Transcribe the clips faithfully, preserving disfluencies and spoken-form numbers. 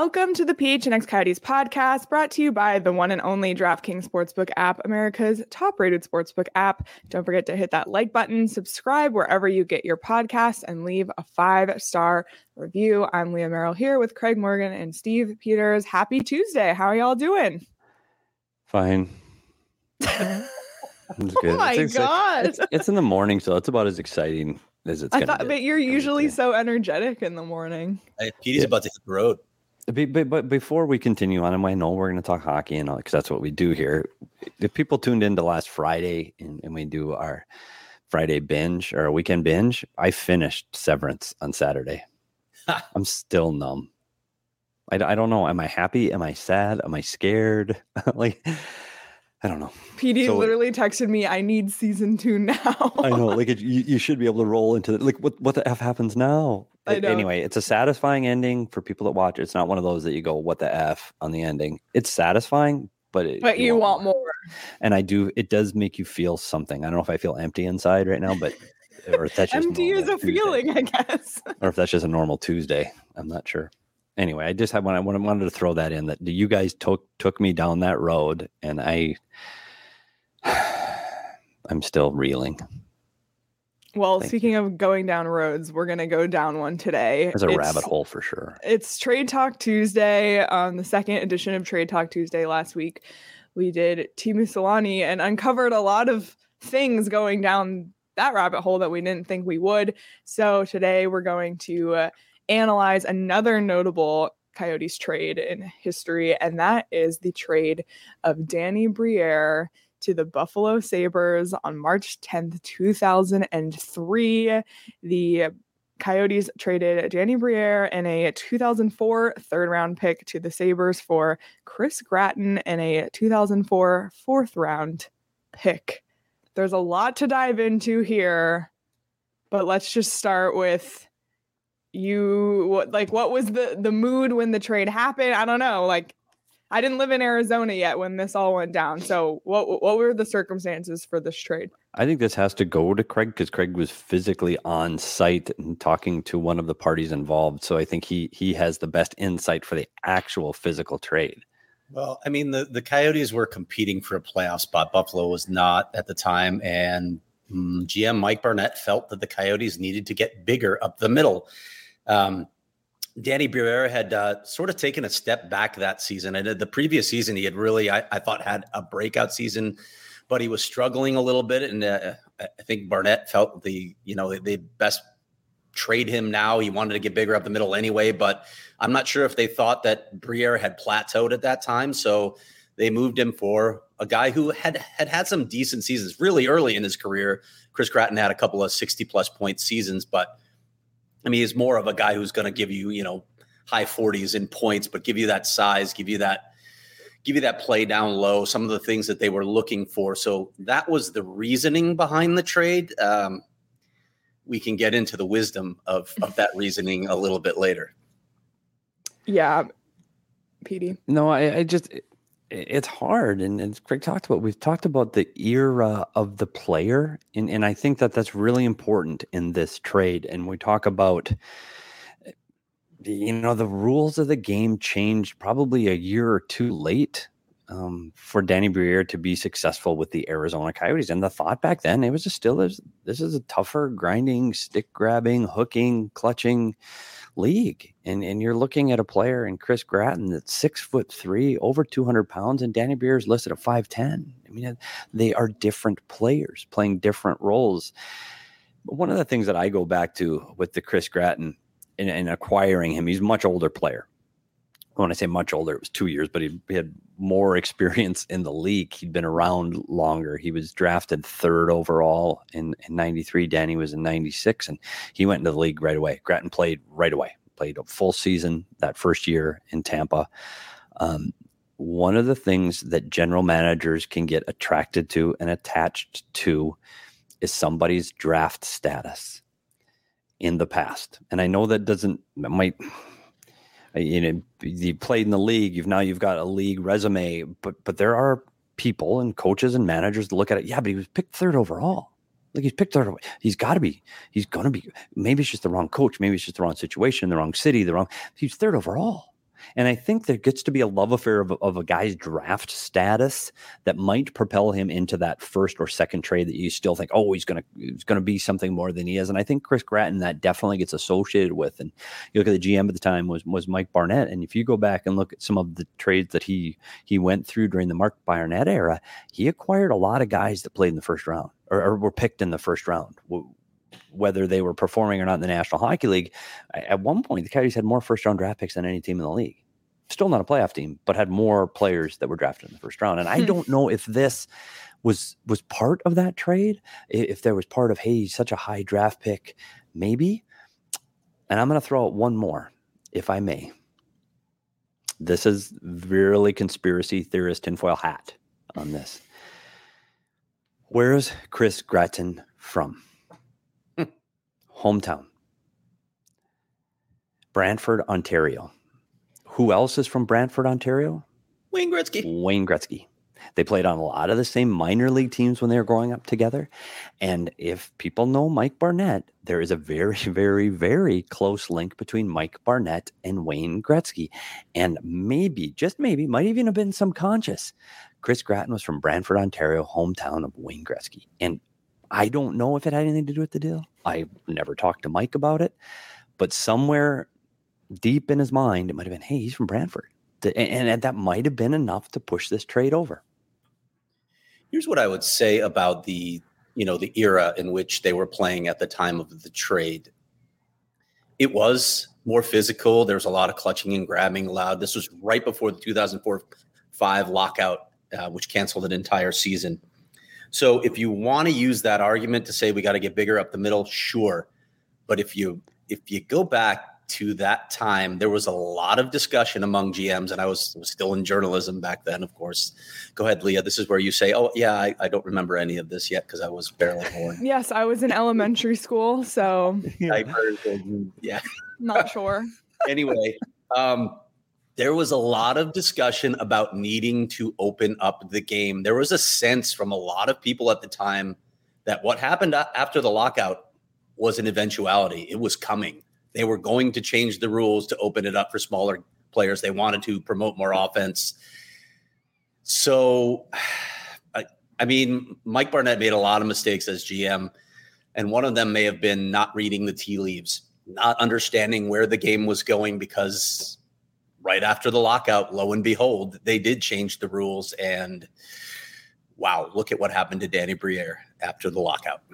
Welcome to the P H N X Coyotes podcast, brought to you by the one and only DraftKings Sportsbook app, America's top-rated sportsbook app. Don't forget to hit that like button, subscribe wherever you get your podcasts, and leave a five-star review. I'm Leah Merrill here with Craig Morgan and Steve Peters. Happy Tuesday. How are y'all doing? Fine. It's good. Oh my it's God. It's, it's in the morning, so it's about as exciting as it's I going to thought, get. but you're usually so energetic in the morning. Hey, Petey's Yeah. about to hit the road. But, but, but before we continue on, and I know we're going to talk hockey and all, because that's what we do here. If people tuned into last Friday and, and we do our Friday binge or weekend binge, I finished Severance on Saturday. I'm still numb. I, I don't know. Am I happy? Am I sad? Am I scared? Like, I don't know. P D So- literally texted me, I need season two now. I know, like it, you, you should be able to roll into it. Like, what, what the F happens now? I know. Anyway, it's a satisfying ending for people that watch. It's not one of those that you go, what the F on the ending. It's satisfying, but it, But you want more. And I do, it does make you feel something. I don't know if I feel empty inside right now, but, or if that's just Empty is normal a Tuesday. feeling, I guess. Or if that's just a normal Tuesday. I'm not sure. Anyway, I just had when I wanted to throw that in that you guys took took me down that road, and I, I'm still reeling. Well, Thank speaking of going down roads, we're going to go down one today. There's a It's- rabbit hole for sure. It's Trade Talk Tuesday, um, the second edition of Trade Talk Tuesday last week. We did Teemu Selanne and uncovered a lot of things going down that rabbit hole that we didn't think we would. So today we're going to uh, analyze another notable Coyotes trade in history, and that is the trade of Danny Briere to the Buffalo Sabres on March tenth, two thousand three. The Coyotes traded Danny Briere and a two thousand four third round pick to the Sabres for Chris Gratton and a two thousand four fourth round pick. There's a lot to dive into here, but let's just start with you. What, like, what was the, the mood when the trade happened? I don't know. Like, I didn't live in Arizona yet when this all went down. So what what were the circumstances for this trade? I think this has to go to Craig because Craig was physically on site and talking to one of the parties involved. So I think he he has the best insight for the actual physical trade. Well, I mean, the, the Coyotes were competing for a playoff spot. Buffalo was not at the time. And mm, G M Mike Barnett felt that the Coyotes needed to get bigger up the middle. Um, Danny Briere had uh, sort of taken a step back that season. And the previous season, he had really, I, I thought, had a breakout season, but he was struggling a little bit. And uh, I think Barnett felt the, you know, they best trade him now. He wanted to get bigger up the middle anyway, but I'm not sure if they thought that Briere had plateaued at that time. So they moved him for a guy who had had, had some decent seasons really early in his career. Chris Gratton had a couple of sixty plus point seasons, but I mean, he's more of a guy who's going to give you, you know, high forties in points, but give you that size, give you that, give you that play down low, some of the things that they were looking for. So that was the reasoning behind the trade. Um, we can get into the wisdom of, of that reasoning a little bit later. Yeah, P D. No, I, I just, it, it's hard. And as Craig talked about, we've talked about the era of the player. And, and I think that that's really important in this trade. And we talk about, you know, the rules of the game changed probably a year or two late um, for Danny Briere to be successful with the Arizona Coyotes. And the thought back then, it was just still, this, this is a tougher, grinding, stick grabbing, hooking, clutching league. And and you're looking at a player in Chris Gratton that's six foot three, over two hundred pounds, and Danny Briere is listed at five ten. I mean, they are different players playing different roles. But one of the things that I go back to with the Chris Gratton and, and acquiring him, he's a much older player. When I say much older, it was two years, but he, he had more experience in the league. He'd been around longer. He was drafted third overall in, in ninety-three. Danny was in ninety-six, and he went into the league right away. Gratton played right away, played a full season that first year in Tampa. Um, one of the things that general managers can get attracted to and attached to is somebody's draft status in the past. And I know that doesn't, that might... You know, you played in the league. You've now you've got a league resume, but but there are people and coaches and managers that look at it. Yeah, but he was picked third overall. Like he's picked third. He's got to be. He's going to be. Maybe it's just the wrong coach. Maybe it's just the wrong situation, the wrong city, the wrong. He's third overall. And I think there gets to be a love affair of, of a guy's draft status that might propel him into that first or second trade that you still think, oh, he's going to he's going to be something more than he is. And I think Chris Gratton that definitely gets associated with. And you look at the G M at the time was was Mike Barnett. And if you go back and look at some of the trades that he he went through during the Mark Barnett era, he acquired a lot of guys that played in the first round or, or were picked in the first round. Whether they were performing or not in the National Hockey League, at one point, the Coyotes had more first-round draft picks than any team in the league. Still not a playoff team, but had more players that were drafted in the first round. And I don't know if this was was part of that trade, if there was part of, hey, he's such a high draft pick, maybe. And I'm going to throw out one more, if I may. This is really conspiracy theorist tinfoil hat on this. Where's Chris Gratton from? Hometown. Brantford, Ontario. Who else is from Brantford, Ontario? Wayne Gretzky. Wayne Gretzky. They played on a lot of the same minor league teams when they were growing up together. And if people know Mike Barnett, there is a very, very, very close link between Mike Barnett and Wayne Gretzky. And maybe, just maybe, might even have been subconscious. Chris Gratton was from Brantford, Ontario, hometown of Wayne Gretzky. And I don't know if it had anything to do with the deal. I never talked to Mike about it, but somewhere deep in his mind, it might have been, hey, he's from Brantford. And, and that might have been enough to push this trade over. Here's what I would say about the, you know, the era in which they were playing at the time of the trade. It was more physical. There was a lot of clutching and grabbing allowed. This was right before the two thousand four five lockout, uh, which canceled an entire season. So if you want to use that argument to say we got to get bigger up the middle, sure. But if you if you go back to that time, there was a lot of discussion among G Ms, and I was, was still in journalism back then, of course. Go ahead, Leah. This is where you say, oh, yeah, I, I don't remember any of this yet because I was barely born. Yes, I was in elementary school, so yeah. Not sure. Anyway, um, there was a lot of discussion about needing to open up the game. There was a sense from a lot of people at the time that what happened after the lockout was an eventuality. It was coming. They were going to change the rules to open it up for smaller players. They wanted to promote more offense. So, I, I mean, Mike Barnett made a lot of mistakes as G M, and one of them may have been not reading the tea leaves, not understanding where the game was going, because right after the lockout, lo and behold, they did change the rules. And wow, look at what happened to Danny Briere after the lockout.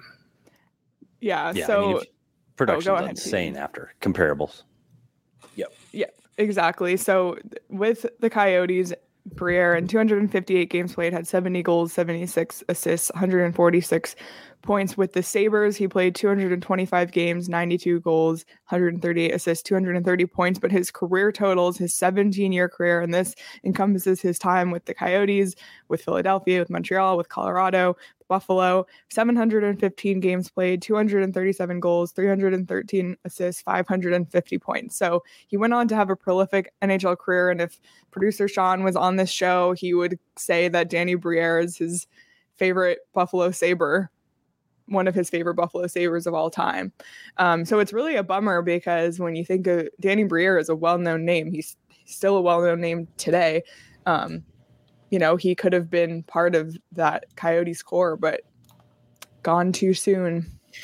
Yeah, yeah so... I mean, production's oh, go ahead, insane Pete. After comparables. Yep. Yeah, exactly. So with the Coyotes, Briere in two hundred fifty-eight games played had seventy goals, seventy-six assists, one hundred forty-six points. With the Sabres, he played two hundred twenty-five games, ninety-two goals, one hundred thirty-eight assists, two hundred thirty points. But his career totals, his seventeen-year career, and this encompasses his time with the Coyotes, with Philadelphia, with Montreal, with Colorado, Buffalo, seven hundred fifteen games played, two hundred thirty-seven goals, three hundred thirteen assists, five hundred fifty points. So he went on to have a prolific N H L career. And if producer Sean was on this show, he would say that Danny Briere is his favorite Buffalo Sabre, one of his favorite Buffalo Sabres of all time. Um, so it's really a bummer because when you think of Danny Briere as a well-known name, he's still a well-known name today. Um, You know, he could have been part of that Coyotes core, but gone too soon.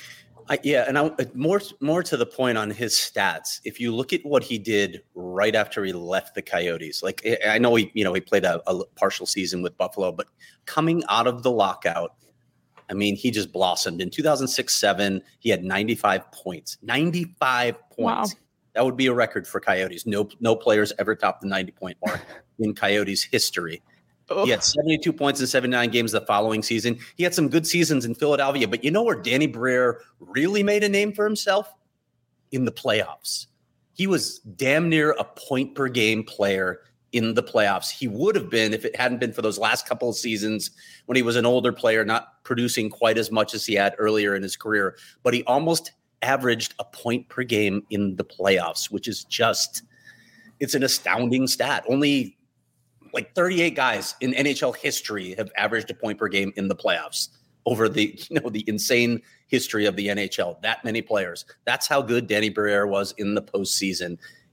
I, yeah, and I, more more to the point on his stats. If you look at what he did right after he left the Coyotes, like I know he, you know, he played a, a partial season with Buffalo, but coming out of the lockout, I mean, he just blossomed. In two thousand six seven, he had ninety-five points. ninety-five points. Wow. That would be a record for Coyotes. No, no players ever topped the ninety-point mark in Coyotes history. He had seventy-two points in seventy-nine games the following season. He had some good seasons in Philadelphia, but you know where Danny Briere really made a name for himself? In the playoffs. He was damn near a point per game player in the playoffs. He would have been if it hadn't been for those last couple of seasons when he was an older player, not producing quite as much as he had earlier in his career. But he almost averaged a point per game in the playoffs, which is just, it's an astounding stat. Only like thirty-eight guys in N H L history have averaged a point per game in the playoffs over the, you know, the insane history of the N H L. That many players. That's how good Danny Briere was in the postseason.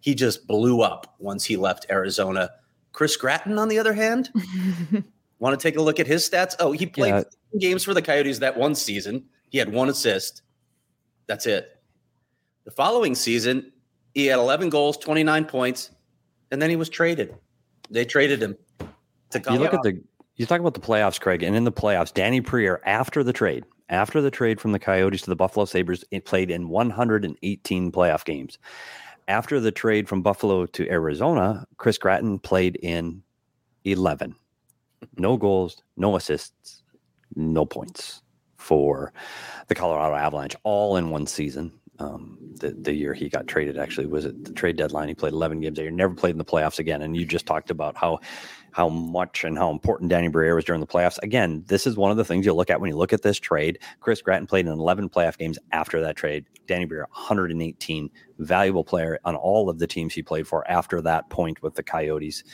he just blew up once he left Arizona. Chris Gratton, on the other hand, want to take a look at his stats? Oh, he played Yeah. games for the Coyotes that one season. He had one assist. That's it. The following season, he had eleven goals, twenty-nine points, and then he was traded. They traded him to You Colorado. look at the you talk about the playoffs, Craig, and in the playoffs, Danny Briere, after the trade, after the trade from the Coyotes to the Buffalo Sabres, it played in one hundred eighteen playoff games. After the trade from Buffalo to Arizona, Chris Gratton played in eleven. No goals, no assists, no points for the Colorado Avalanche, all in one season. Um, the, the year he got traded actually was at the trade deadline. He played eleven games that year, never played in the playoffs again. And you just talked about how how much and how important Danny Briere was during the playoffs. Again, this is one of the things you look at when you look at this trade. Chris Gratton played in eleven playoff games after that trade. Danny Briere, one hundred eighteen, valuable player on all of the teams he played for after that point with the Coyotes.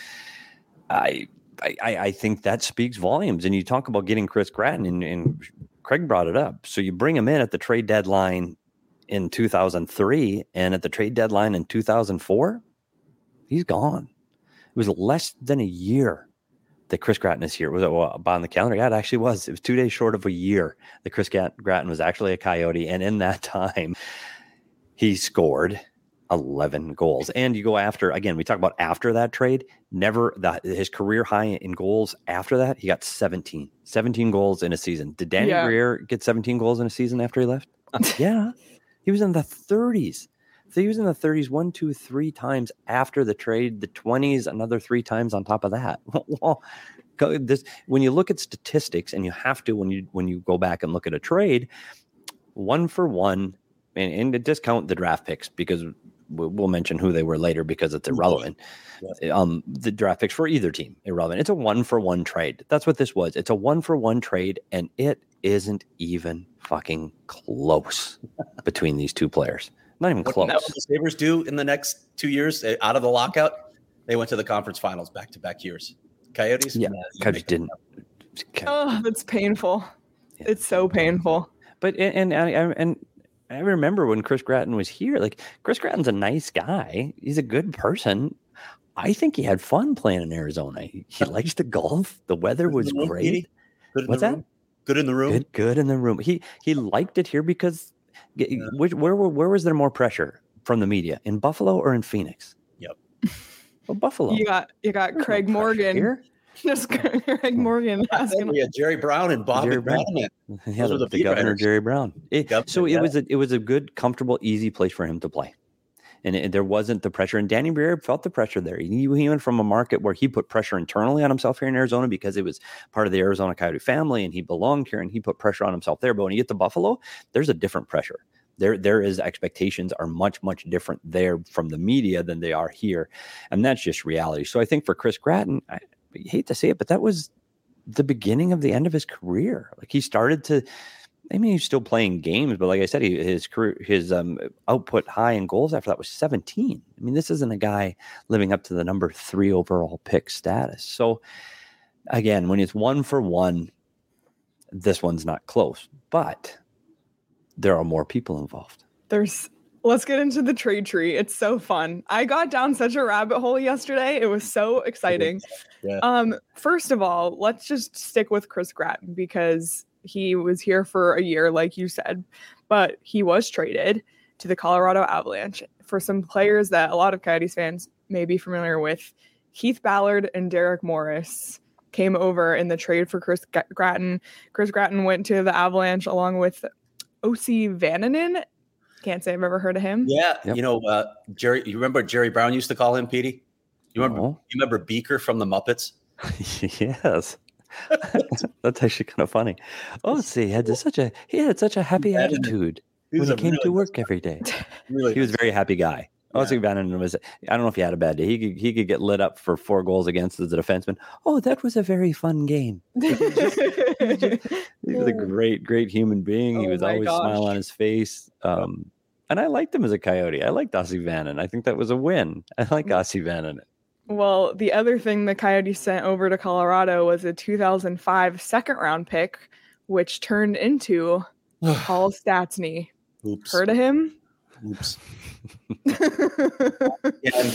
I I, I think that speaks volumes. And you talk about getting Chris Gratton, and, and Craig brought it up. So you bring him in at the trade deadline in two thousand three, and at the trade deadline in two thousand four, he's gone. It was less than a year that Chris Gratton is here. Was it well, on the calendar? Yeah, it actually was. It was two days short of a year that Chris Gratton was actually a Coyote. And in that time, he scored eleven goals. And you go after, again, we talk about after that trade, never the, his career high in goals after that, he got seventeen. seventeen goals in a season. Did Danny Yeah. Briere get seventeen goals in a season after he left? Uh, yeah. He was in the thirties. So he was in the thirties one, two, three times after the trade, the twenties, another three times on top of that. Well, go- this, when you look at statistics, and you have to when you when you go back and look at a trade, one for one, and, and to discount the draft picks because we- we'll mention who they were later because it's irrelevant. Um, the draft picks for either team, irrelevant. It's a one for one trade. That's what this was. It's a one for one trade, and it isn't even fucking close between these two players. Not even What close. did the Sabres do in the next two years uh, out of the lockout? They went to the conference finals back to back years. Coyotes? Yeah, Nah, you Coyotes make didn't. Oh, that's painful. Yeah. It's so painful. But and and I, and I remember when Chris Gratton was here. Like Chris Gratton's a nice guy. He's a good person. I think he had fun playing in Arizona. He, he likes to golf. The weather was Good in the room, great. Petey? Good in What's the that? room? Good in the room. Good, good in the room. He he liked it here because Yeah. which, where were- where was there more pressure from the media, in Buffalo or in Phoenix? Yep. Well, Buffalo. You got you got There's no Craig pressure Morgan. here. Just Craig Morgan asking. We had Jerry Brown and Bobby Jerry Brown. Brown. Yeah, Those the, were the the beat governor writers. Jerry Brown. It- Governor, so it yeah. was a it was a good, comfortable, easy place for him to play, and it, there wasn't the pressure. And Danny Briere felt the pressure there. He, he went from a market where he put pressure internally on himself here in Arizona because it was part of the Arizona Coyote family, and he belonged here, and he put pressure on himself there. But when you get to Buffalo, there's a different pressure. There, there is expectations are much, much different there from the media than they are here, and that's just reality. So I think for Chris Gratton, I, I hate to say it, but that was the beginning of the end of his career. Like he started to, I mean, he's still playing games, but like I said, he, his career, his um, output high in goals after that was seventeen. I mean, this isn't a guy living up to the number three overall pick status. So again, when it's one for one, this one's not close, but there are more people involved. There's let's get into the trade tree. It's so fun. I got down such a rabbit hole yesterday. It was so exciting. Yeah. Um, first of all, let's just stick with Chris Gratton because he was here for a year, like you said, but he was traded to the Colorado Avalanche for some players that a lot of Coyotes fans may be familiar with. Keith Ballard and Derek Morris came over in the trade for Chris Gratton. Chris Gratton went to the Avalanche along with O C Vananen. Can't say I've ever heard of him. Yeah, Yep. you know, uh, Jerry. You remember Jerry Brown used to call him Petey? You remember? No. You remember Beaker from the Muppets? Yes. That's actually kind of funny. Oh, see, he had such a he had such a happy That is- attitude He when was he a came to really work every day. Really, He was a very happy guy. Yeah. Ozzy Vananen was. I don't know if he had a bad day. He could he could get lit up for four goals against as a defenseman. Oh, that was a very fun game. He was a great, great human being. He Oh was my always gosh. smile on his face. Um, and I liked him as a Coyote. I liked Ozzy Vananen. I think that was a win. I like Ozzy Vananen. Well, the other thing the Coyotes sent over to Colorado was a two thousand five second round pick, which turned into Paul Stastny. Oops. Heard of him? Oops. Yeah.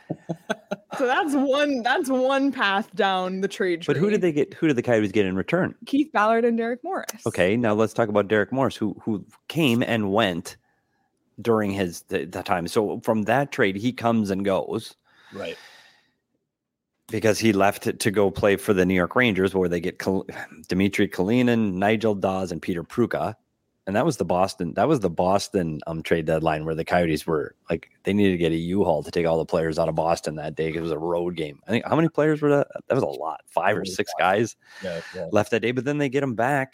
So that's one that's one path down the trade tree. But who did they get? Who did the Coyotes get in return? Keith Ballard and Derek Morris. Okay, now let's talk about Derek Morris, who who came and went during his the, the time. So from that trade, he comes and goes. Right. Because he left to, to go play for the New York Rangers, where they get Kal- Dmitry Kalinin, Nigel Dawes, and Peter Pruka. And that was the Boston. That was the Boston um, trade deadline where the Coyotes were like they needed to get a U-Haul to take all the players out of Boston that day because it was a road game. I think how many players were that? That was a lot, five or six guys yeah, yeah. left that day. But then they get him back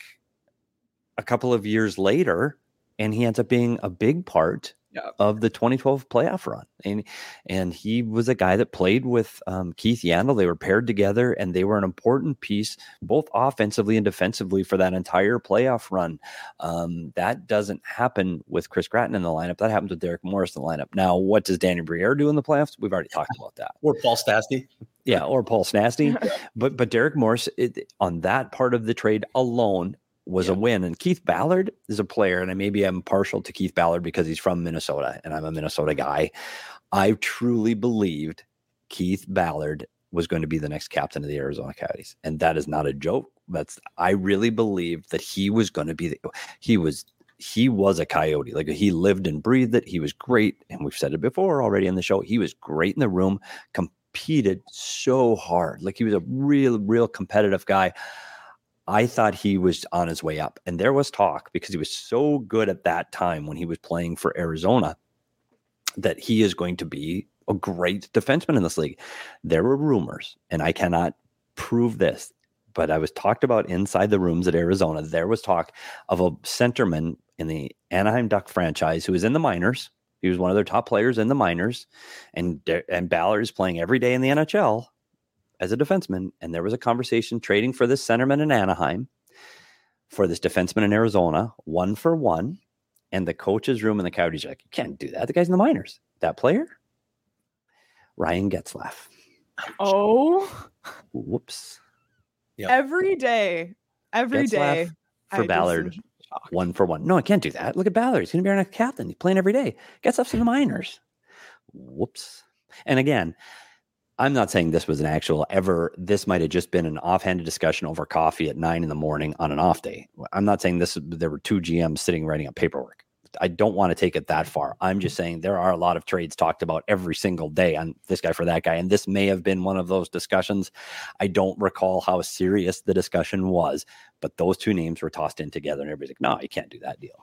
a couple of years later, and he ends up being a big part yeah. of the twenty twelve playoff run. And and he was a guy that played with um, Keith Yandle. They were paired together, and they were an important piece, both offensively and defensively, for that entire playoff run. Um, that doesn't happen with Chris Gratton in the lineup. That happens with Derek Morris in the lineup. Now, what does Danny Briere do in the playoffs? We've already talked about that. Or Paul Stastny. Yeah, or Paul Stastny. but but Derek Morris, it, on that part of the trade alone, was yeah. a win. And Keith Ballard is a player, and I maybe I'm partial to Keith Ballard because he's from Minnesota, and I'm a Minnesota guy. I truly believed Keith Ballard was going to be the next captain of the Arizona Coyotes, and that is not a joke. That's I really believed that he was going to be. The, he was he was a Coyote. Like he lived and breathed it. He was great, and we've said it before already in the show. He was great in the room. Competed so hard. Like he was a real, real competitive guy. I thought he was on his way up, and there was talk because he was so good at that time when he was playing for Arizona that he is going to be a great defenseman in this league. There were rumors, and I cannot prove this, but I was talked about inside the rooms at Arizona. There was talk of a centerman in the Anaheim Duck franchise who was in the minors. He was one of their top players in the minors, and and Ballard is playing every day in the N H L as a defenseman, and there was a conversation trading for this centerman in Anaheim for this defenseman in Arizona, one for one, and the coach's room in the Coyotes are like, you can't do that. The guy's in the minors. That player? Ryan Getzlaf. Oh. Whoops. Yep. Every day. Every Getzlaf day. For I Ballard, one for one. No, I can't do that. Look at Ballard. He's going to be our next captain. He's playing every day. Getzlaf's in the minors. Whoops. And again, I'm not saying this was an actual ever, this might have just been an offhanded discussion over coffee at nine in the morning on an off day. I'm not saying this, there were two G Ms sitting writing up paperwork. I don't want to take it that far. I'm just saying there are a lot of trades talked about every single day on this guy for that guy. And this may have been one of those discussions. I don't recall how serious the discussion was, but those two names were tossed in together and everybody's like, no, you can't do that deal.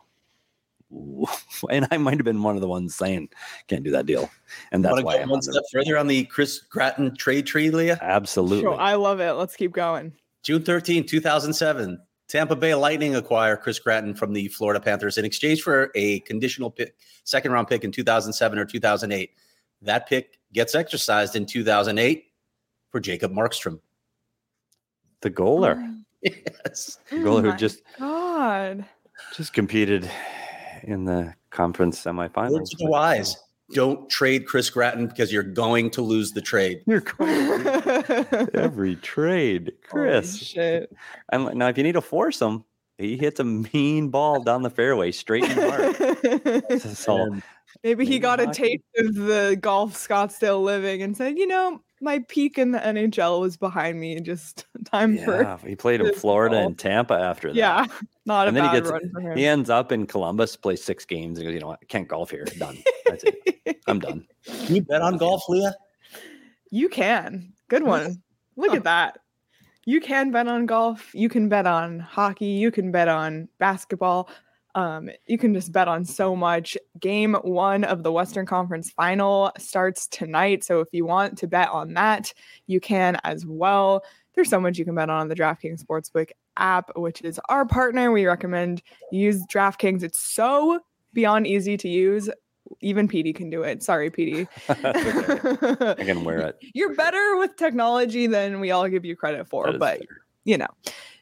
And I might have been one of the ones saying can't do that deal, and that's why I'm one step further on the Chris Gratton trade tree, Leah. Absolutely, sure, I love it. Let's keep going. June thirteenth, two thousand seven, Tampa Bay Lightning acquire Chris Gratton from the Florida Panthers in exchange for a conditional pick, second round pick in two thousand seven or two thousand eight. That pick gets exercised in two thousand eight for Jacob Markstrom, the goaler. Oh. Yes, the goaler oh who just God just competed in the conference semifinals. Words to the wise. Don't trade Chris Gratton because you're going to lose the trade. You're going every trade, Chris. Holy shit. And now, if you need to force him, he hits a mean ball down the fairway, straight in the heart. So maybe he got a taste of the golf Scottsdale living and said, you know, my peak in the N H L was behind me. Just time yeah, for. He played in Florida ball. and Tampa after that. Yeah, not and a then bad he gets, run for him. He ends up in Columbus, plays six games, and goes, you know what? I can't golf here. Done. That's it. I'm done. Can you bet on golf, Leah? You can. Good one. Look oh. at that. You can bet on golf. You can bet on hockey. You can bet on basketball. Um, you can just bet on so much. Game one of the Western Conference Final starts tonight. So if you want to bet on that, you can as well. There's so much you can bet on the DraftKings Sportsbook app, which is our partner. We recommend you use DraftKings. It's so beyond easy to use. Even P D can do it. Sorry, P D. Okay. I can wear it. You're better with technology than we all give you credit for, but fair. You know.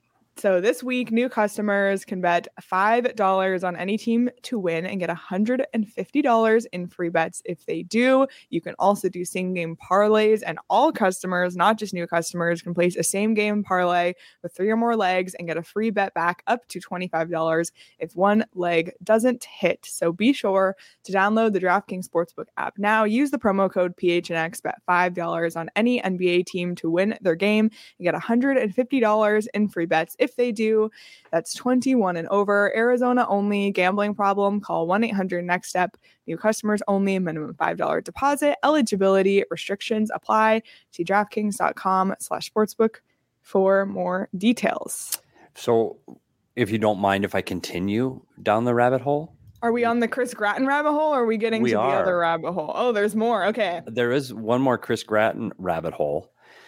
So this week, new customers can bet five dollars on any team to win and get one hundred fifty dollars in free bets if they do. You can also do same game parlays, and all customers, not just new customers, can place a same game parlay with three or more legs and get a free bet back up to twenty-five dollars if one leg doesn't hit. So be sure to download the DraftKings Sportsbook app now. Use the promo code P H N X, bet five dollars on any N B A team to win their game and get one hundred fifty dollars in free bets if they do. That's twenty-one and over. Arizona only. Gambling problem? Call one eight hundred next step. New customers only. Minimum five dollars deposit. Eligibility restrictions apply. See DraftKings.com slash sportsbook for more details. So if you don't mind if I continue down the rabbit hole. Are we on the Chris Gratton rabbit hole, or are we getting we to are. the other rabbit hole? Oh, there's more. Okay. There is one more Chris Gratton rabbit hole.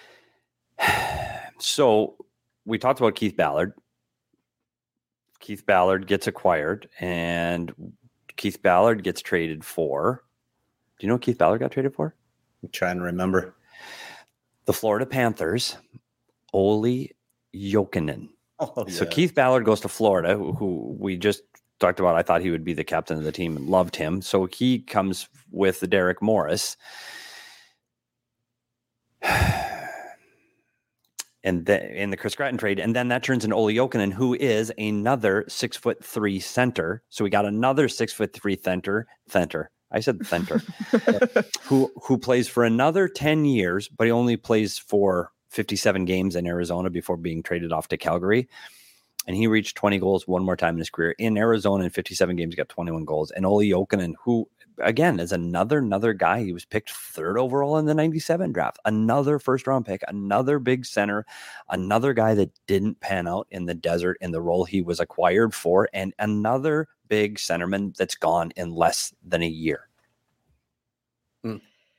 So we talked about Keith Ballard. Keith Ballard gets acquired, and Keith Ballard gets traded for. Do you know what Keith Ballard got traded for? I'm trying to remember. The Florida Panthers, Olli Jokinen. Oh, So yeah. Keith Ballard goes to Florida, who, who we just talked about. I thought he would be the captain of the team and loved him. So he comes with Derek Morris. And then in the Chris Gratton trade, and then that turns into Olli Jokinen, who is another six foot three center. So we got another six foot three center, center. I said center, who who plays for another ten years, but he only plays for fifty-seven games in Arizona before being traded off to Calgary. And he reached twenty goals one more time in his career in Arizona in fifty-seven games. He got twenty-one goals. And Olli Jokinen, who again is another another guy. He was picked third overall in the ninety-seven draft. Another first round pick. Another big center. Another guy that didn't pan out in the desert in the role he was acquired for. And another big centerman that's gone in less than a year. Mm.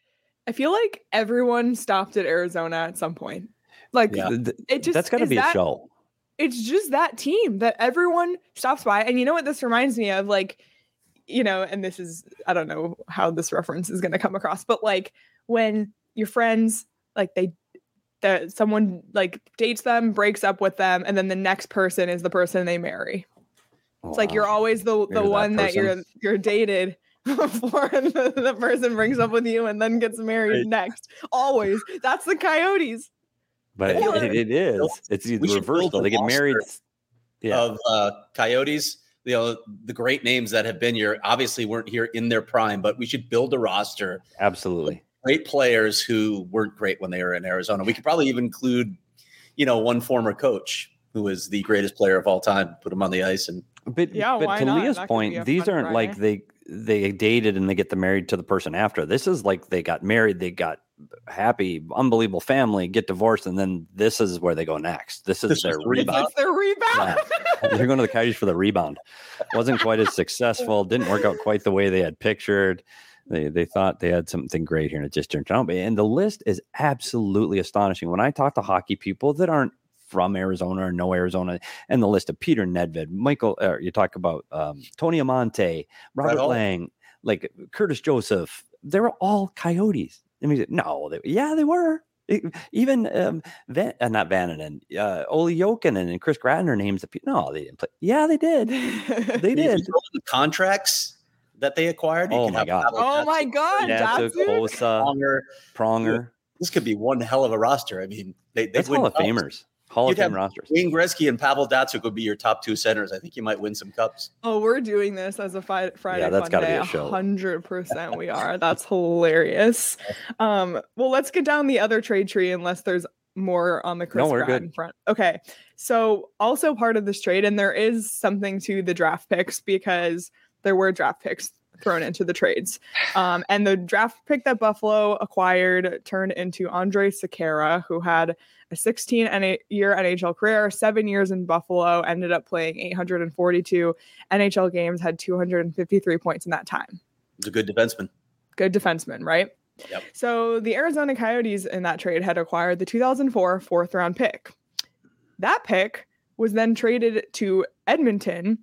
I feel like everyone stopped at Arizona at some point. Like Yeah. it just That's got to is be that, a show. It's just that team that everyone stops by. And you know what this reminds me of? Like, you know, and this is, I don't know how this reference is going to come across, but like when your friends, like they, that someone like dates them, breaks up with them, and then the next person is the person they marry. It's like you're always the the You're that one that you're person. you're dated before the, the person breaks up with you and then gets married Right. next. Always. That's the Coyotes. But Or- it, it, it is. It's the We should reverse. build Though. a They get married. roster Yeah. of uh, Coyotes. You know, the great names that have been here obviously weren't here in their prime, but we should build a roster. Absolutely. Great players who weren't great when they were in Arizona. We could probably even include, you know, one former coach who was the greatest player of all time. Put him on the ice, and But, Yeah, but why to not? Leah's That could be a point, these fun aren't like they they dated and they get the married to the person after. This is like they got married, they got happy, unbelievable family, get divorced, and then this is where they go next. This is This is their the rebound. It's their rebound. They're going to the Coyotes for the rebound. Wasn't quite as successful. Didn't work out quite the way they had pictured. They they thought they had something great here, and it just turned out. And the list is absolutely astonishing. When I talk to hockey people that aren't from Arizona or know Arizona, and the list of Peter Nedved, Michael, uh, you talk about um, Tony Amonte, Robert Hall. Lang, like Curtis Joseph. They were all Coyotes. I mean, no, they, yeah, they were. It- even um, Van, uh, not Vananen, uh, Olli Jokinen and Chris Gratton are names that people. No, they didn't play. Yeah, they did. They if you did. throw in the contracts that they acquired. you Oh could my have God. Pavel Oh my Datsyuk, God, Datsuk, Datsyuk? Hossa, Pronger. Pronger. This could be one hell of a roster. I mean, they they That's win Hall of cups. Famers. Hall of You'd Fame have rosters. Wayne Gretzky and Pavel Datsyuk would be your top two centers. I think you might win some cups. Oh, we're doing this as a fi- Friday Yeah, that's fun gotta day. be a show. hundred percent we are. That's hilarious. Um, well, let's get down the other trade tree unless there's more on the Chris No, we're Gratton good. front. Okay. So also part of this trade, and there is something to the draft picks because there were draft picks thrown into the trades. Um, and the draft pick that Buffalo acquired turned into Andre Sekera, who had a sixteen year N H L career, seven years in Buffalo, ended up playing eight hundred forty-two N H L games, had two hundred fifty-three points in that time. He's a good defenseman. Good defenseman, right? Yep. So the Arizona Coyotes in that trade had acquired the two thousand four fourth round pick. That pick was then traded to Edmonton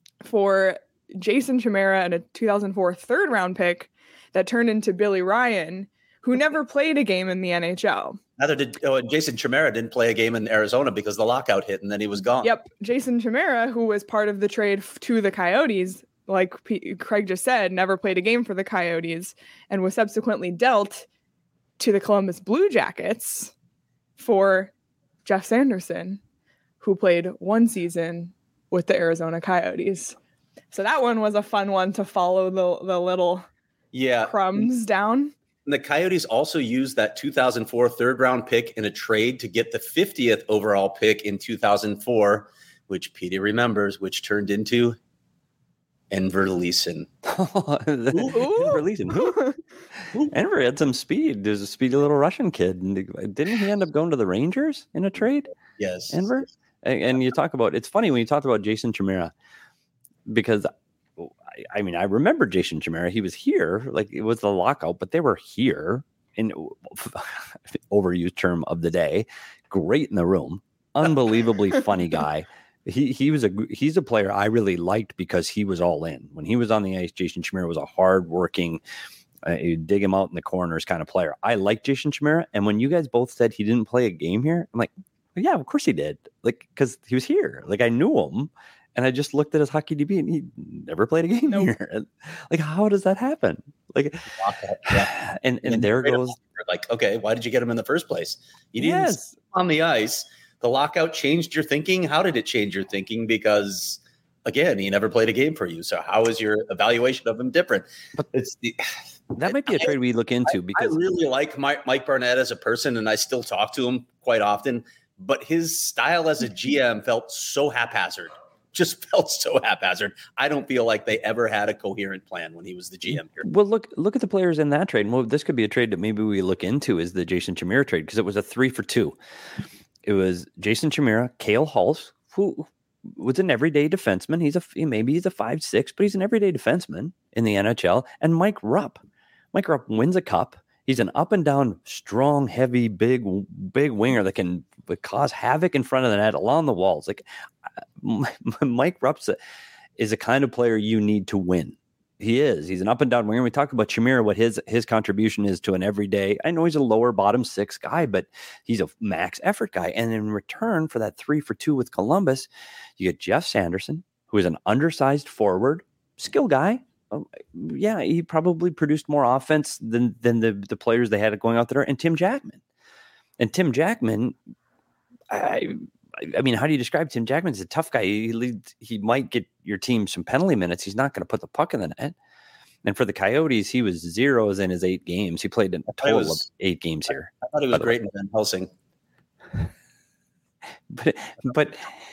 for Jason Chimera and a two thousand four third round pick that turned into Billy Ryan, who never played a game in the N H L. Neither did oh, Jason Chimera didn't play a game in Arizona because the lockout hit and then he was gone. Yep. Jason Chimera, who was part of the trade f- to the Coyotes, like P- Craig just said, never played a game for the Coyotes and was subsequently dealt to the Columbus Blue Jackets for Jeff Sanderson, who played one season with the Arizona Coyotes. So that one was a fun one to follow the, the little yeah. crumbs down. And the Coyotes also used that two thousand four third round pick in a trade to get the fiftieth overall pick in two thousand four, which Petey remembers, which turned into Enver Leeson. Enver Leeson. Enver had some speed. There's a speedy little Russian kid. And didn't he end up going to the Rangers in a trade? Yes. Enver? And, and you talk about, it's funny when you talk about Jason Chimera, because I mean, I remember Jason Chimera. He was here, like it was the lockout, but they were here in overused term of the day. Great in the room, unbelievably funny guy. He he was a he's a player I really liked because he was all in when he was on the ice. Jason Chimera was a hardworking, uh, you dig him out in the corners kind of player. I like Jason Chimera, and when you guys both said he didn't play a game here, I'm like, well, yeah, of course he did. Like because he was here. Like I knew him. And I just looked at his hockey D B and he never played a game nope. here. Like, how does that happen? Like, yeah. and, and, and there goes. Like, okay, why did you get him in the first place? You didn't yes. on the ice. The lockout changed your thinking. How did it change your thinking? Because again, he never played a game for you. So how is your evaluation of him different? But it's the, that might be a trade we look into because I really like Mike, Mike Barnett as a person and I still talk to him quite often, but his style as a G M felt so haphazard. Just felt so haphazard. I don't feel like they ever had a coherent plan when he was the G M here. Well, look, look at the players in that trade. Well, this could be a trade that maybe we look into is the Jason Chimera trade because it was a three for two. It was Jason Chimera, Cale Hulse, who was an everyday defenseman. He's a maybe he's a five six, but he's an everyday defenseman in the N H L. And Mike Rupp. Mike Rupp wins a cup. He's an up and down, strong, heavy, big, big winger that can cause havoc in front of the net along the walls. Like Mike Rupp is a kind of player you need to win. He is. He's an up and down winger. We talk about Chimera, what his his contribution is to an everyday. I know he's a lower bottom six guy, but he's a max effort guy. And in return for that three for two with Columbus, you get Jeff Sanderson, who is an undersized forward, skill guy. Um, yeah, he probably produced more offense than than the, the players they had going out there, and Tim Jackman. And Tim Jackman, I I mean, how do you describe Tim Jackman? He's a tough guy. He leads, he might get your team some penalty minutes. He's not going to put the puck in the net. And for the Coyotes, he was zeros in his eight games. He played in a total was, of eight games here. I thought he was great in Van Helsing. But but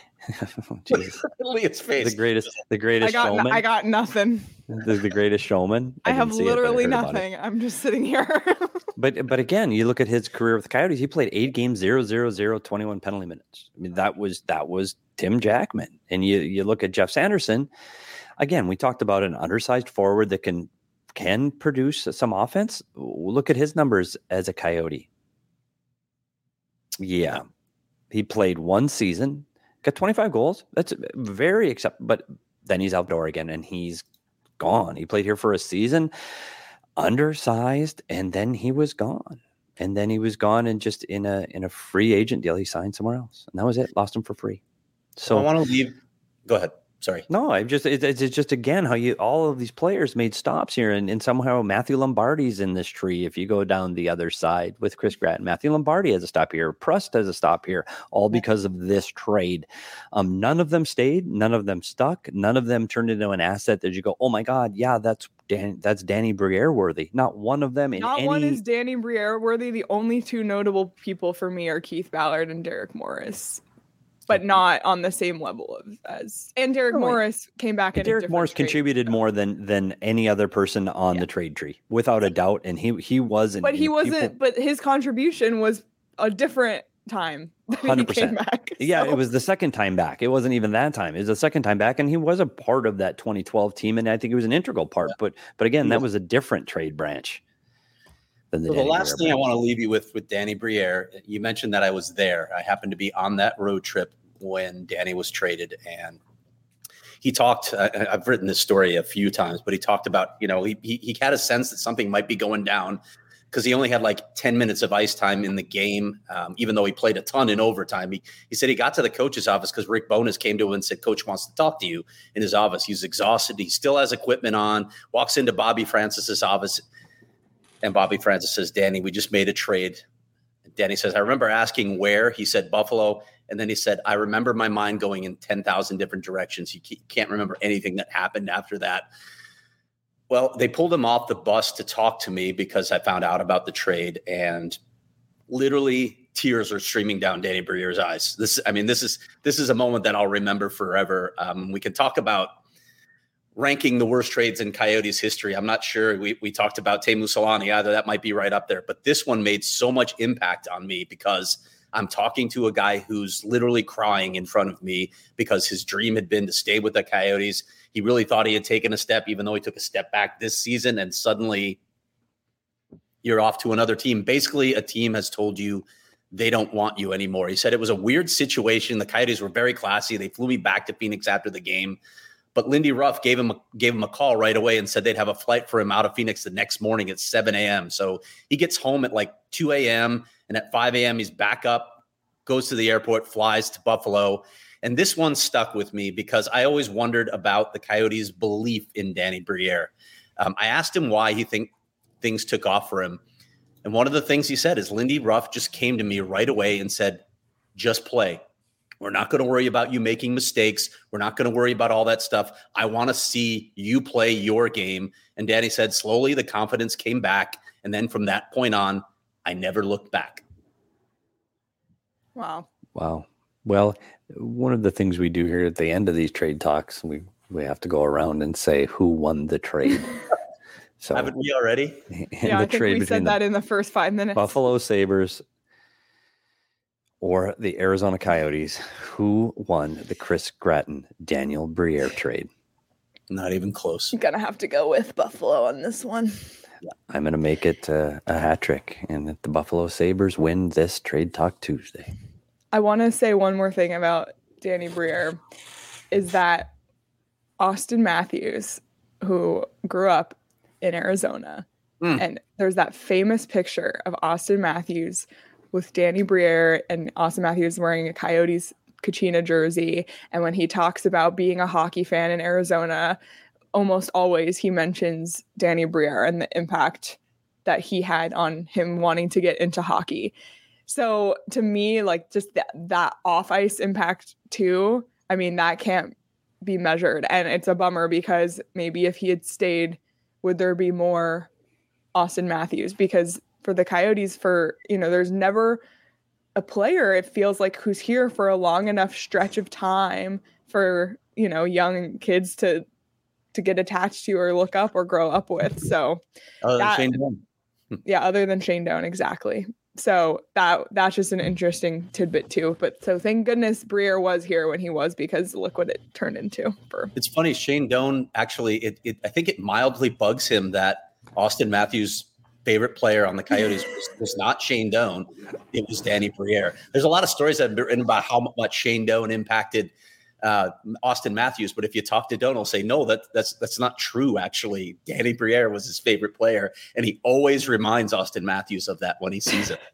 his face. The greatest, the greatest I got showman. No, I got nothing. The, the greatest showman. I, I have literally it, nothing. I'm just sitting here. but but again, you look at his career with the Coyotes. He played eight games, zero, zero, zero, twenty-one penalty minutes. I mean, that was that was Tim Jackman. And you you look at Jeff Sanderson. Again, we talked about an undersized forward that can can produce some offense. Look at his numbers as a Coyote. Yeah, he played one season. Got twenty-five goals. That's very acceptable. But then he's outdoor again, and he's gone. He played here for a season, undersized, and then he was gone. And then he was gone, and just in a in a free agent deal, he signed somewhere else, and that was it. Lost him for free. So I want to leave. Go ahead. Sorry. No, I just it, it's just again how you all of these players made stops here, and, and somehow Matthew Lombardi's in this tree. If you go down the other side with Chris Gratton, Matthew Lombardi has a stop here. Prust has a stop here, all because of this trade. Um, none of them stayed. None of them stuck. None of them turned into an asset that you go, oh my God, yeah, that's Dan, that's Danny Briere worthy. Not one of them. In Not any... one is Danny Briere worthy. The only two notable people for me are Keith Ballard and Derek Morris. But not on the same level of as and Derek no, Morris came back. In Derek Morris trade. contributed more than than any other person on yeah. the trade tree, without a doubt. And he he wasn't. But he wasn't. People, but his contribution was a different time. one hundred percent. Back, so. Yeah, it was the second time back. It wasn't even that time. It was the second time back, and he was a part of that twenty twelve team, and I think he was an integral part. Yeah. But but again, yeah. that was a different trade branch. Than the, so the last Briere thing branch. I want to leave you with with Danny Briere, you mentioned that I was there. I happened to be on that road trip when Danny was traded, and he talked. I, I've written this story a few times, but he talked about you know he, he he had a sense that something might be going down because he only had like ten minutes of ice time in the game, um, even though he played a ton in overtime. He, he said he got to the coach's office because Rick Bowness came to him and said, Coach wants to talk to you in his office. He's exhausted. He still has equipment on, walks into Bobby Francis's office. And Bobby Francis says, Danny, we just made a trade. And Danny says, I remember asking where. He said, Buffalo. And then he said, I remember my mind going in ten thousand different directions. You can't remember anything that happened after that. Well, they pulled him off the bus to talk to me because I found out about the trade, and literally tears are streaming down Danny Briere's eyes. This, I mean, this is this is a moment that I'll remember forever. Um, we can talk about ranking the worst trades in Coyotes history. I'm not sure. We we talked about Teemu Selanne. Either that might be right up there, but this one made so much impact on me because I'm talking to a guy who's literally crying in front of me because his dream had been to stay with the Coyotes. He really thought he had taken a step, even though he took a step back this season, and suddenly you're off to another team. Basically, a team has told you they don't want you anymore. He said it was a weird situation. The Coyotes were very classy. They flew me back to Phoenix after the game, but Lindy Ruff gave him a, gave him a call right away and said they'd have a flight for him out of Phoenix the next morning at seven a.m. So he gets home at like two a.m. and at five a.m. he's back up, goes to the airport, flies to Buffalo. And this one stuck with me because I always wondered about the Coyotes' belief in Danny Briere. Um, I asked him why he think things took off for him. And one of the things he said is Lindy Ruff just came to me right away and said, just play. We're not going to worry about you making mistakes. We're not going to worry about all that stuff. I want to see you play your game. And Danny said slowly the confidence came back. And then from that point on, I never looked back. Wow. Wow. Well, one of the things we do here at the end of these trade talks, we, we have to go around and say who won the trade. So haven't we already? Yeah, I think we said that in the first five minutes. Buffalo Sabres or the Arizona Coyotes, who won the Chris Gratton, Daniel Briere trade? Not even close. I'm going to have to go with Buffalo on this one. I'm going to make it uh, a hat trick, and that the Buffalo Sabres win this Trade Talk Tuesday. I want to say one more thing about Danny Briere is that Austin Matthews, who grew up in Arizona, mm. and there's that famous picture of Austin Matthews with Danny Briere, and Austin Matthews wearing a Coyotes Kachina jersey. And when he talks about being a hockey fan in Arizona, almost always he mentions Danny Briere and the impact that he had on him wanting to get into hockey. So to me, like just that, that off ice impact too, I mean, that can't be measured. And it's a bummer because maybe if he had stayed, would there be more Austin Matthews? Because for the Coyotes, for, you know, there's never a player, it feels like, who's here for a long enough stretch of time for, you know, young kids to to get attached to or look up or grow up with. So other that, than Shane Doan. Yeah, other than Shane Doan, exactly. So that that's just an interesting tidbit too. But so thank goodness Briere was here when he was, because look what it turned into. For It's funny, Shane Doan actually, it, it I think it mildly bugs him that Austin Matthews' favorite player on the Coyotes was, was not Shane Doan. It was Danny Briere. There's a lot of stories that have been written about how much Shane Doan impacted uh, Austin Matthews, but if you talk to Doan, he'll say, no, that, that's that's not true, actually. Danny Briere was his favorite player, and he always reminds Austin Matthews of that when he sees it.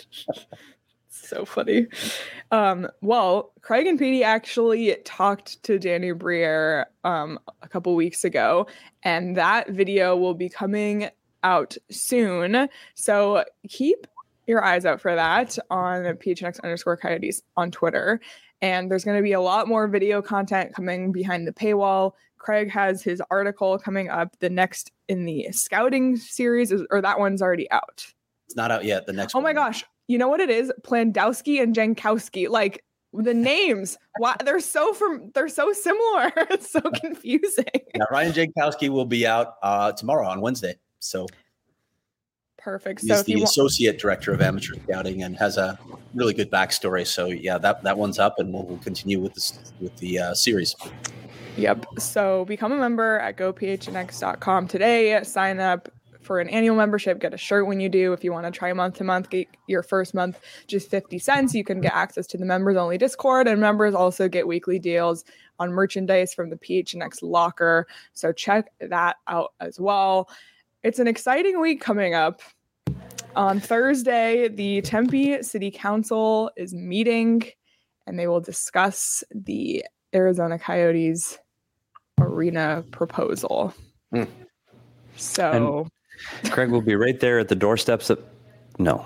So funny. Um, well, Craig and Petey actually talked to Danny Briere um, a couple weeks ago, and that video will be coming out soon. So keep your eyes out for that on P H N X underscore Coyotes on Twitter. And there's going to be a lot more video content coming behind the paywall. Craig has his article coming up, the next in the scouting series, or that one's already out. It's not out yet. The next Oh one. my gosh. You know what it is? Plandowski and Jankowski. Like the names, why they're so from they're so similar. It's so confusing. Yeah, Ryan Jankowski will be out uh, tomorrow on Wednesday. So perfect. He's So if the you associate want- director of amateur scouting and has a really good backstory. So yeah, that, that one's up, and we'll, we'll continue with this with the uh, series. Yep. So become a member at go p h n x dot com today. Sign up for an annual membership. Get a shirt when you do. If you want to try month to month, get your first month just fifty cents. You can get access to the members only Discord, and members also get weekly deals on merchandise from the P H N X locker. So check that out as well. It's an exciting week coming up. On Thursday, the Tempe City Council is meeting, and they will discuss the Arizona Coyotes arena proposal. Mm. So and Craig will be right there at the doorsteps of no.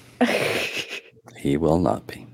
He will not be.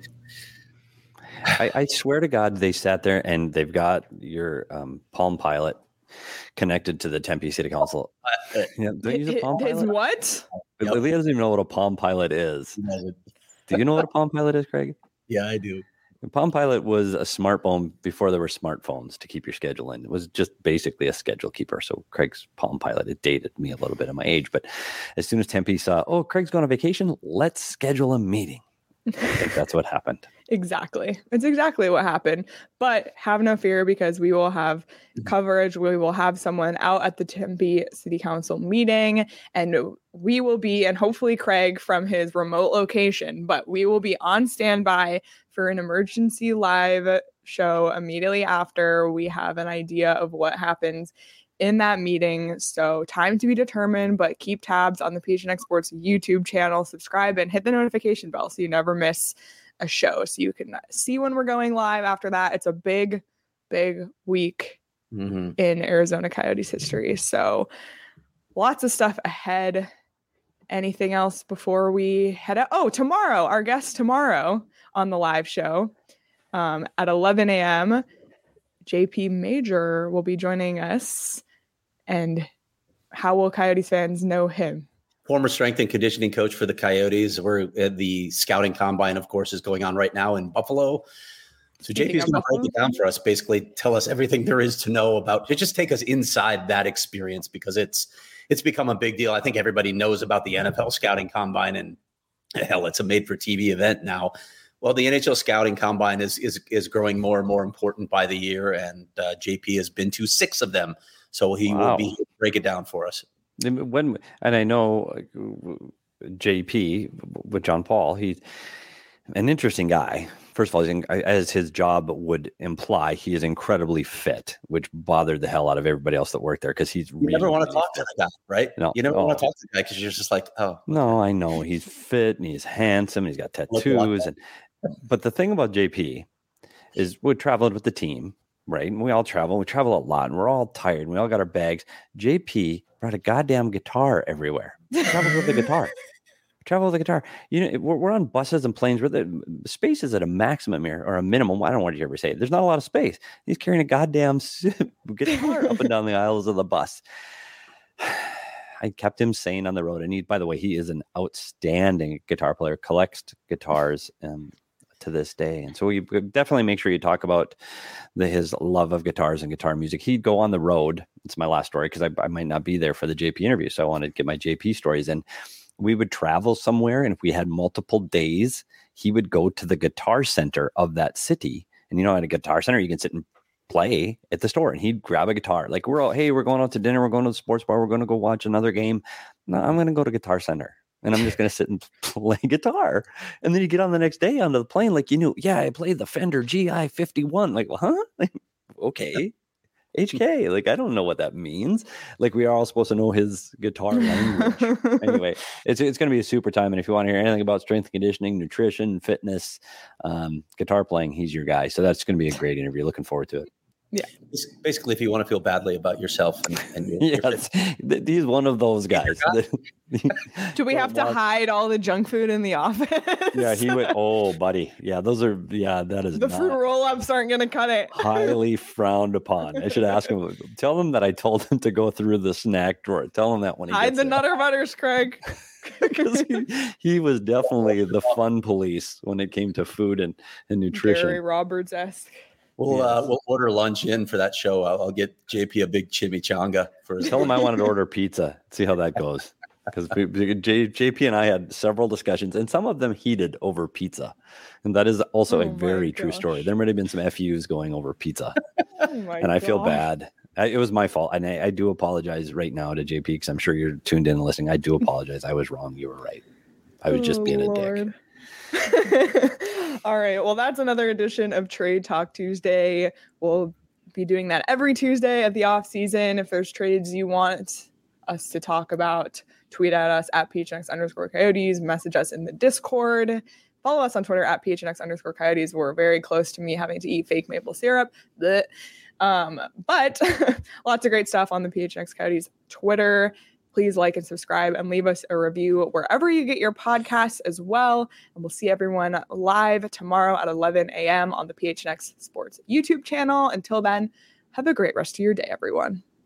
I, I swear to God, they sat there and they've got your um, Palm Pilot connected to the Tempe City Council. Uh, yeah, don't use a Palm Pilot. His what? Yep. Leah doesn't even know what a Palm Pilot is. Do you know what a Palm Pilot is, Craig? Yeah, I do. The Palm Pilot was a smartphone before there were smartphones to keep your schedule in. It was just basically a schedule keeper. So Craig's Palm Pilot, it dated me a little bit of my age. But as soon as Tempe saw, oh, Craig's going on vacation, let's schedule a meeting. I think that's what happened. Exactly. It's exactly what happened. But have no fear, because we will have coverage. We will have someone out at the Tempe City Council meeting, and we will be, and hopefully Craig from his remote location, but we will be on standby for an emergency live show immediately after we have an idea of what happens in that meeting. So time to be determined, but keep tabs on the P H N X Sports YouTube channel, subscribe, and hit the notification bell so you never miss a show, so you can see when we're going live after that. It's a big, big week mm-hmm. in Arizona Coyotes history. So lots of stuff ahead. Anything else before we head out? Oh, tomorrow, our guest tomorrow on the live show um, at eleven a.m., J P Major will be joining us. And how will Coyotes fans know him? Former strength and conditioning coach for the Coyotes. We're at the scouting combine, of course, is going on right now in Buffalo. So J P is going to break it down for us, basically tell us everything there is to know about it. Just take us inside that experience, because it's it's become a big deal. I think everybody knows about the N F L scouting combine, and hell, it's a made-for-T V event now. Well, the N H L scouting combine is is is growing more and more important by the year, and uh, J P has been to six of them. So he wow. will be here to break it down for us. When and I know J P with John Paul, he's an interesting guy. First of all, he's, as his job would imply, he is incredibly fit, which bothered the hell out of everybody else that worked there, because he's you really, never want to really talk fit. to the guy, right? No, you never oh. want to talk to the guy because you're just like, oh. No, I know he's fit and he's handsome. And he's got tattoos, and but the thing about J P is we traveled with the team. Right. And we all travel. We travel a lot, and we're all tired. And we all got our bags. J P brought a goddamn guitar everywhere. He travels with a guitar. Travel with a guitar. You know, we're, we're on buses and planes where the space is at a maximum here, or a minimum. I don't know what you ever say. There's not a lot of space. He's carrying a goddamn guitar up and down the aisles of the bus. I kept him sane on the road. And he, by the way, he is an outstanding guitar player, collects guitars um, to this day. And so you definitely make sure you talk about the, his love of guitars and guitar music. He'd go on the road. It's my last story, because I, I might not be there for the J P interview. So I wanted to get my J P stories in. We would travel somewhere, and if we had multiple days, he would go to the guitar center of that city. And you know, at a guitar center, you can sit and play at the store, and he'd grab a guitar. Like, we're all, hey, we're going out to dinner. We're going to the sports bar. We're going to go watch another game. No, I'm going to go to Guitar Center, and I'm just going to sit and play guitar. And then you get on the next day onto the plane. Like, you knew, yeah, I played the Fender G I fifty-one. Like, well, huh? Like, okay. H K, like, I don't know what that means. Like, we are all supposed to know his guitar language. Anyway, it's it's going to be a super time. And if you want to hear anything about strength and conditioning, nutrition, fitness, um, guitar playing, he's your guy. So that's going to be a great interview. Looking forward to it. Yeah. Basically, if you want to feel badly about yourself. And, and yes, he's one of those guys. Do we have to hide all the junk food in the office? Yeah, he would. Oh, buddy. Yeah, those are, yeah, that is the fruit roll-ups aren't going to cut it. Highly frowned upon. I should ask him, tell him that I told him to go through the snack drawer. Tell him that when he hide the there. Nutter Butters, Craig. Because he, he was definitely the fun police when it came to food and, and nutrition. Gary Roberts-esque. We'll yes. uh, we'll order lunch in for that show. I'll, I'll get J P a big chimichanga for his. Tell him I wanted to order pizza. See how that goes. Because J, JP and I had several discussions, and some of them heated over pizza, and that is also oh a very true story. There might have been some F Us going over pizza, oh and I gosh. feel bad. I, it was my fault, and I, I do apologize right now to J P, because I'm sure you're tuned in and listening. I do apologize. I was wrong. You were right. I was just being oh, a Lord. dick. All right. Well, that's another edition of Trade Talk Tuesday. We'll be doing that every Tuesday of the off season. If there's trades you want us to talk about, tweet at us at P H N X underscore Coyotes, message us in the Discord, follow us on Twitter at P H N X underscore Coyotes. We're very close to me having to eat fake maple syrup. Blech. Um, but lots of great stuff on the P H N X Coyotes Twitter. Please like and subscribe and leave us a review wherever you get your podcasts as well. And we'll see everyone live tomorrow at eleven a.m. on the P H N X Sports YouTube channel. Until then, have a great rest of your day, everyone.